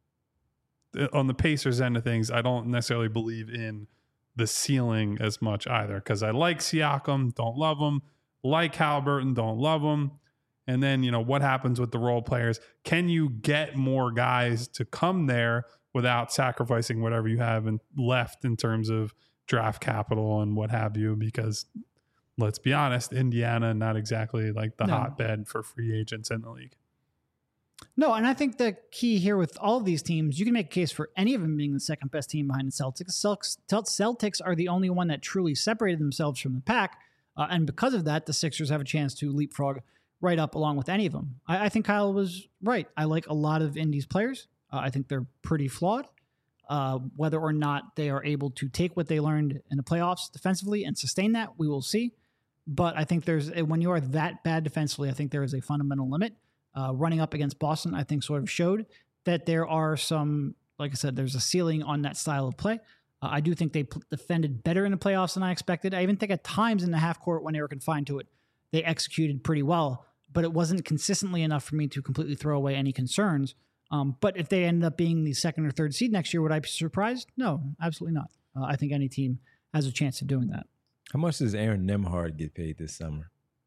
the Pacers end of things, I don't necessarily believe in the ceiling as much either, because I like Siakam, don't love him, like Haliburton, don't love him. And then, what happens with the role players? Can you get more guys to come there without sacrificing whatever you have left in terms of draft capital and what have you? Because let's be honest, Indiana, not exactly like the hotbed for free agents in the league. No, and I think the key here with all of these teams, you can make a case for any of them being the second best team behind the Celtics. Celtics are the only one that truly separated themselves from the pack. And because of that, the Sixers have a chance to leapfrog right up along with any of them. I think Kyle was right. I like a lot of Indy's players. I think they're pretty flawed. Whether or not they are able to take what they learned in the playoffs defensively and sustain that, we will see. But I think when you are that bad defensively, I think there is a fundamental limit. Running up against Boston, I think sort of showed that there are some, like I said, there's a ceiling on that style of play. I do think they defended better in the playoffs than I expected. I even think at times in the half court when they were confined to it, they executed pretty well, but it wasn't consistently enough for me to completely throw away any concerns. But if they ended up being the second or third seed next year, would I be surprised? No, absolutely not. I think any team has a chance of doing that. How much does Aaron Nemhard get paid this summer?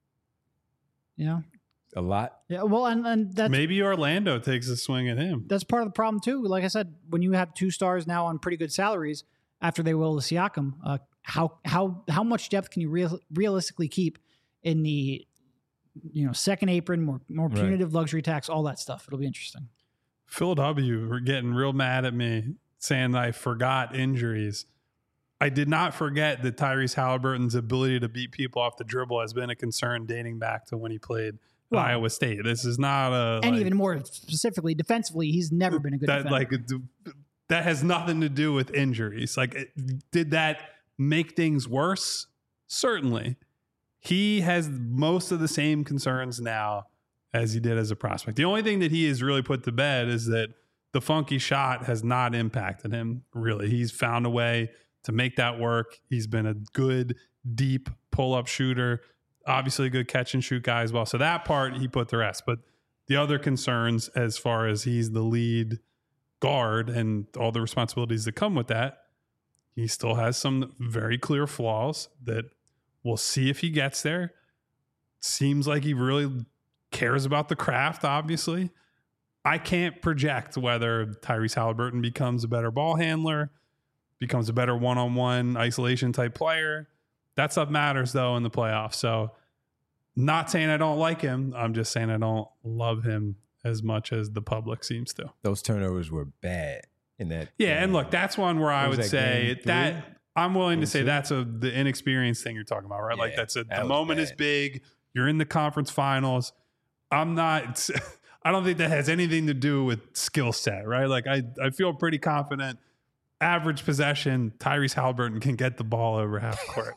Yeah. A lot? Yeah, well, and that's... Maybe Orlando takes a swing at him. That's part of the problem, too. Like I said, when you have two stars now on pretty good salaries after they will the Siakam, how much depth can you realistically keep in the second apron, more punitive luxury tax, all that stuff? It'll be interesting. Phil W. were getting real mad at me saying that I forgot injuries. I did not forget that Tyrese Halliburton's ability to beat people off the dribble has been a concern dating back to when he played at Iowa State. This is not even more specifically defensively, he's never been a good defender. That has nothing to do with injuries. Did that make things worse? Certainly. He has most of the same concerns now as he did as a prospect. The only thing that he has really put to bed is that the funky shot has not impacted him, really. He's found a way to make that work. He's been a good, deep pull-up shooter, obviously a good catch-and-shoot guy as well. So that part, he put to rest. But the other concerns, as far as he's the lead guard and all the responsibilities that come with that, he still has some very clear flaws that we'll see if he gets there. Seems like he really cares about the craft, obviously. I can't project whether Tyrese Halliburton becomes a better ball handler, becomes a better one-on-one isolation type player. That stuff matters, though, in the playoffs. So not saying I don't like him. I'm just saying I don't love him as much as the public seems to. Those turnovers were bad in that. Yeah, and look, that's one where I would say that I'm willing to say that's the inexperienced thing you're talking about, right? Yeah, the moment is big. You're in the conference finals. I don't think that has anything to do with skill set, right? I feel pretty confident. Average possession, Tyrese Halliburton can get the ball over half court.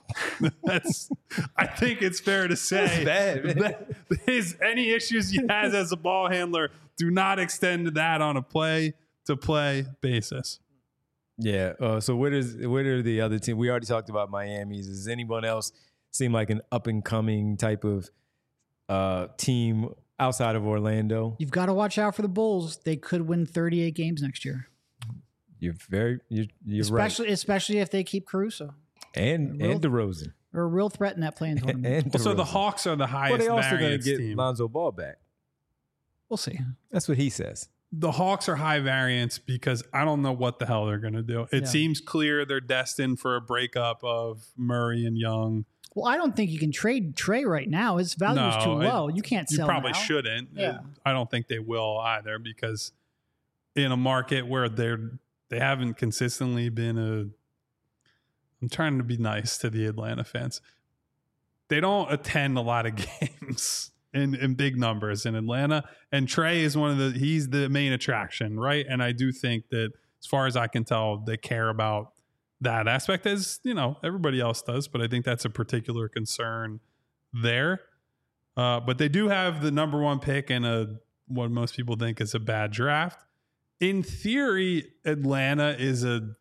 I think it's fair to say that any issues he has as a ball handler do not extend to that on a play-to-play basis. Yeah. So where are the other team? We already talked about Miami's. Does anyone else seem like an up-and-coming type of team outside of Orlando? You've got to watch out for the Bulls. They could win 38 games next year. You're right. Especially if they keep Caruso. And DeRozan. Or a real threat in that playing tournament. So the Hawks are the highest variance team. Well, they also going to get Lonzo Ball back. We'll see. That's what he says. The Hawks are high variance because I don't know what the hell they're going to do. It seems clear they're destined for a breakup of Murray and Young. Well, I don't think you can trade Trey right now. His value is too low. You can't sell him. You probably shouldn't. Yeah. I don't think they will either, because in a market where they haven't consistently been I'm trying to be nice to the Atlanta fans. They don't attend a lot of games in big numbers in Atlanta. And Trey is he's the main attraction, right? And I do think that, as far as I can tell, they care about that aspect, as everybody else does, but I think that's a particular concern there. But they do have the number 1 pick in what most people think is a bad draft. In theory, Atlanta is a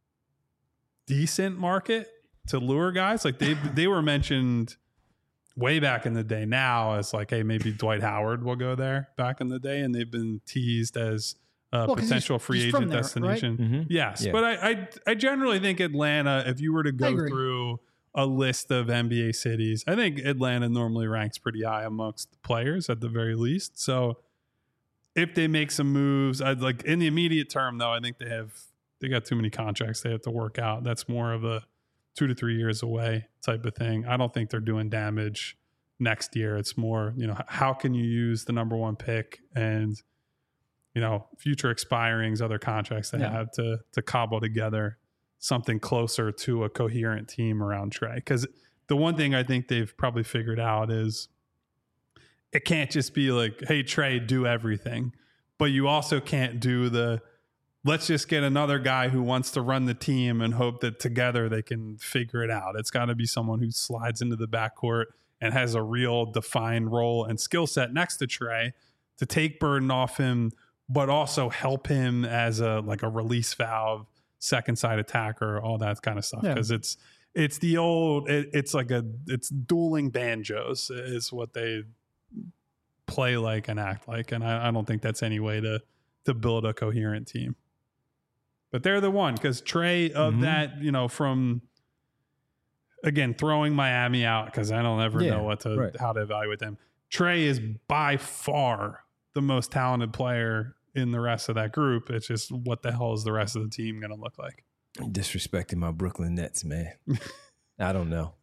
decent market to lure guys. Like they were mentioned way back in the day now as like, hey, maybe Dwight Howard will go there back in the day, and they've been teased as a potential free agent destination. Right? Mm-hmm. Yes, yeah. But I generally think Atlanta, if you were to go through a list of NBA cities, I think Atlanta normally ranks pretty high amongst the players at the very least. So if they make some moves, I'd like in the immediate term though, I think they got too many contracts they have to work out. That's more of a 2 to 3 years away type of thing. I don't think they're doing damage next year. It's more, how can you use the number 1 pick and, future expirings, other contracts they have to cobble together something closer to a coherent team around Trae. Because the one thing I think they've probably figured out is it can't just be like, hey, Trae, do everything. But you also can't do let's just get another guy who wants to run the team and hope that together they can figure it out. It's got to be someone who slides into the backcourt and has a real defined role and skill set next to Trae to take burden off him, but also help him as a release valve, second side attacker, all that kind of stuff. Because it's the old, it's dueling banjos is what they play like and act like. And I don't think that's any way to build a coherent team. But they're the one, because Trae of that, from, again, throwing Miami out, because I don't ever know how to evaluate them. Trae is by far the most talented player in the rest of that group. It's just, what the hell is the rest of the team going to look like? Disrespecting my Brooklyn Nets, man. I don't know.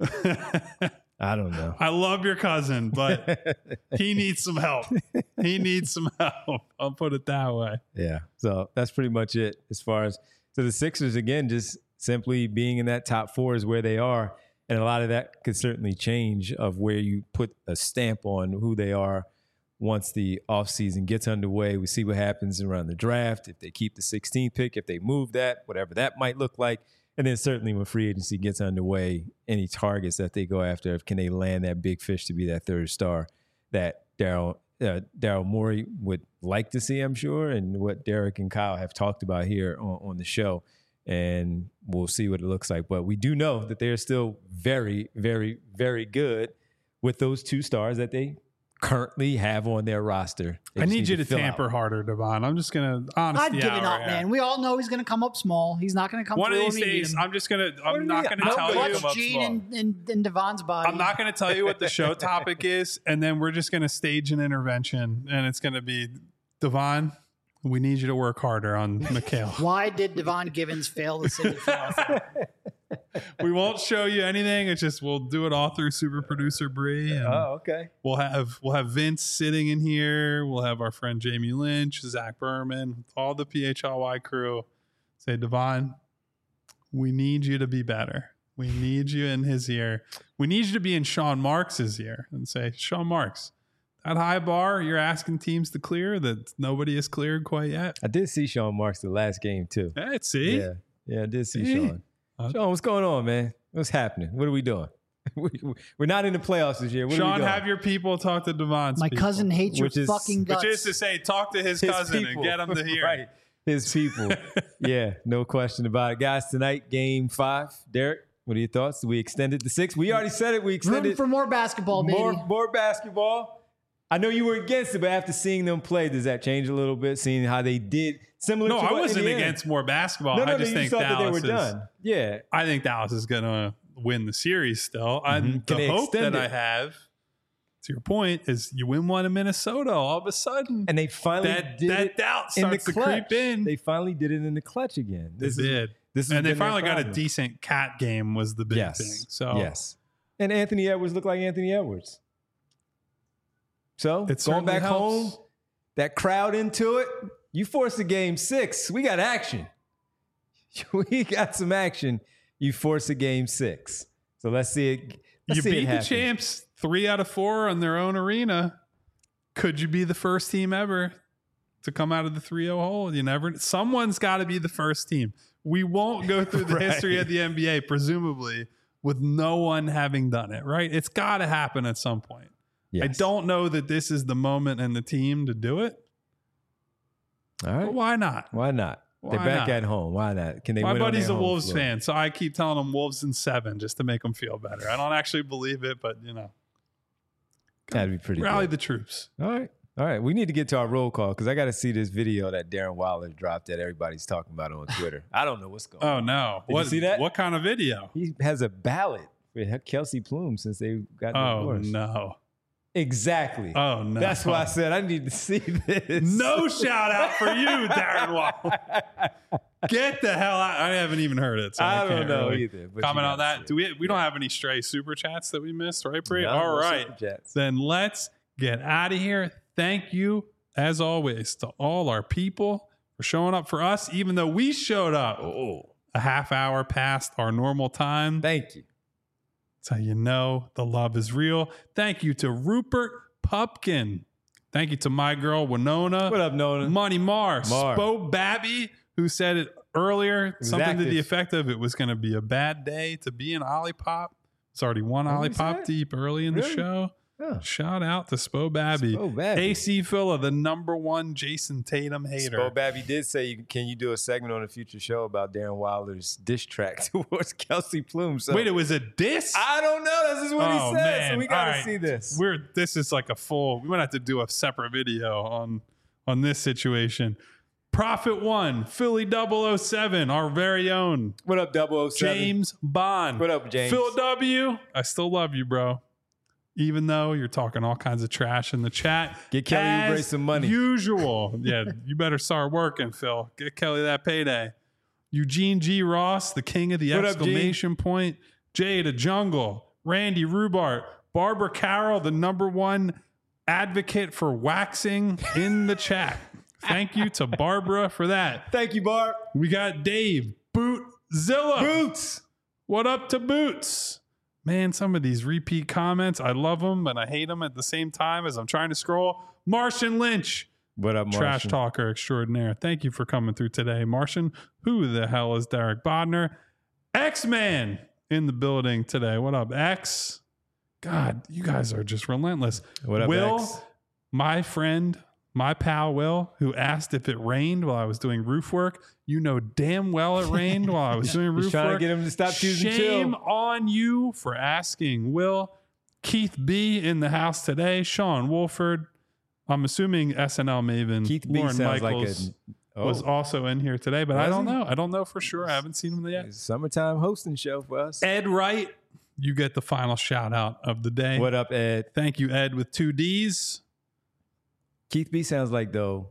I love your cousin, but he needs some help. I'll put it that way. Yeah. So that's pretty much it as far as, so the Sixers, again, just simply being in that top 4 is where they are. And a lot of that could certainly change of where you put a stamp on who they are once the offseason gets underway. We see what happens around the draft. If they keep the 16th pick, if they move that, whatever that might look like. And then certainly when free agency gets underway, any targets that they go after, can they land that big fish to be that third star that Daryl Morey would like to see, I'm sure, and what Derek and Kyle have talked about here on the show. And we'll see what it looks like. But we do know that they're still very, very, very good with those 2 stars that they currently have on their roster. I need you to tamper harder, Devon. I'm just going to honestly. I've given up, man. We all know he's going to come up small. He's not going to come one of these days. I'm not going to tell you. Gene in Devon's body. I'm not going to tell you what the show topic is, and then we're just going to stage an intervention, and it's going to be, Devon, we need you to work harder on Mikal. Why did Devon Givens fail the city for We won't show you anything. It's just we'll do it all through super producer Bree. Okay. We'll have Vince sitting in here. We'll have our friend Jamie Lynch, Zach Berman, all the PHLY crew. Say, Devon, we need you to be better. We need you in his ear. We need you to be in Sean Marks's ear and say, Sean Marks, that high bar you're asking teams to clear that nobody has cleared quite yet. I did see Sean Marks the last game too. Hey, see? Yeah, I did see Sean. Sean, what's going on, man? What's happening? What are we doing? We're not in the playoffs this year. Sean, have your people talk to Devon's My cousin hates your fucking guts. Which is to say, talk to his cousin people. And get him to hear. Right. His people. Yeah, no question about it. Guys, tonight, game 5. Derek, what are your thoughts? We extended to 6. We already said it. We extended. Room for more basketball, baby. More basketball. I know you were against it, but after seeing them play, does that change a little bit? Seeing how they did similar to I wasn't against more basketball. I just think Dallas that they were done. Yeah. I think Dallas is going to win the series still. The hope that I have, to your point, is you win one in Minnesota all of a sudden. And they finally did that doubt starts to creep in. They finally did it in the clutch again. They finally got a decent cat game was the big thing. So yes. And Anthony Edwards looked like Anthony Edwards. So it's going back home, that crowd into it. You force a game 6. We got action. We got some action. You force a game 6. So let's see it. You beat the champs 3 out of 4 on their own arena. Could you be the first team ever to come out of the 3-0 hole. Someone's got to be the first team. We won't go through the history of the NBA, presumably, with no one having done it, right? It's got to happen at some point. Yes. I don't know that this is the moment and the team to do it. All right. But why not? Why not? They're back at home. Why not? Can they? My win buddy's a Wolves floor? fan, so I keep telling him Wolves in 7 just to make them feel better. I don't actually believe it, but that'd be pretty. Rally good. the troops. All right. We need to get to our roll call because I got to see this video that Darren Waller dropped that everybody's talking about on Twitter. I don't know what's going on. Oh no! Did you see that? What kind of video? He has a ballot for Kelsey Plume since they got divorced. Oh no! Exactly. Oh no! That's why I said I need to see this. No shout out for you, Darren Waller. Get the hell out! I haven't even heard it. So I don't know really either. Comment on that. Do we don't have any stray super chats that we missed, right, Bree? No, all no right. super chats. Then let's get out of here. Thank you, as always, to all our people for showing up for us, even though we showed up a half hour past our normal time. Thank you. That's how you know the love is real. Thank you to Rupert Pupkin. Thank you to my girl, Winona. What up, Nona? Money Mars. Spo Babby, who said it earlier, something to the effect of it was going to be a bad day to be an Olipop. It's already one Olipop deep early in the show. Oh. Shout out to Spo Babby. AC Philla, the #1 Jason Tatum hater. Spo Babby did say, can you do a segment on a future show about Darren Wilder's diss track towards Kelsey Plume? So, wait, it was a diss? I don't know. This is what he said. Man. So we got to see this. This is like we might have to do a separate video on this situation. Prophet One, Philly 007, our very own. What up, 007? James Bond. What up, James? Phil W. I still love you, bro. Even though you're talking all kinds of trash in the chat. Get Kelly Oubre some money. Usual. Yeah, you better start working, Phil. Get Kelly that payday. Eugene G. Ross, the king of the exclamation point. Jay the Jungle. Randy Rubart. Barbara Carroll, the #1 advocate for waxing in the chat. Thank you to Barbara for that. Thank you, Barb. We got Dave Bootzilla. Boots. What up to Boots? Man, some of these repeat comments, I love them and I hate them at the same time as I'm trying to scroll. Martian Lynch. What up, Martian? Trash talker extraordinaire. Thank you for coming through today, Martian. Who the hell is Derek Bodner? X-Man in the building today. What up, X? God, you guys are just relentless. What up, Will, X? my friend, my pal Will, who asked if it rained while I was doing roof work. You know damn well it rained while I was doing roof work. Trying to get him to stop choosing Shame chill. on you for asking. Will, Keith B in the house today. Sean Wolford. I'm assuming SNL maven Keith B Lauren sounds Michaels like was also in here today, but I Was don't he? know. I don't know for sure. I haven't seen him yet. It's a summertime hosting show for us. Ed Wright, you get the final shout out of the day. What up, Ed? Thank you, Ed, with 2 Ds. Keith B sounds like, though,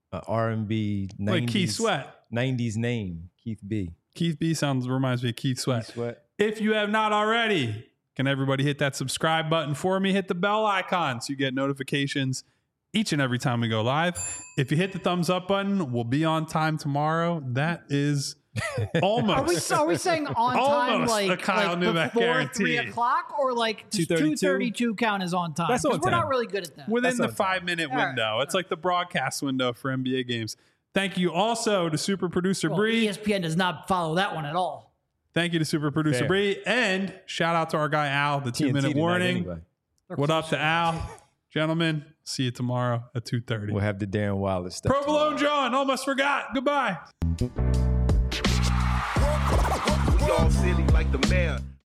R&B 90s. Like Keith Sweat. 90s name, Keith B. Keith B reminds me of Keith Sweat. Keith Sweat. If you have not already, can everybody hit that subscribe button for me? Hit the bell icon so you get notifications each and every time we go live. If you hit the thumbs up button, we'll be on time tomorrow. That is almost. Are we saying on time Almost like, a Kyle like Newbeck before guarantee. 3 o'clock or like 2:32? 2:32 count is on time? That's on 'Cause we're time. not really good at that. within That's the on time. 5-minute All right. window. It's like the broadcast window for NBA games. Thank you also to super producer Well, Bree. ESPN does not follow that one at all. Thank you to super producer Fair. Bree. And shout out to our guy Al, the 2-minute TNT tonight warning. anyway. What up to Al? Gentlemen, see you tomorrow at 2:30. We'll have the Darren Wilder stuff. Provolone John, almost forgot. Goodbye. We all silly like the mayor.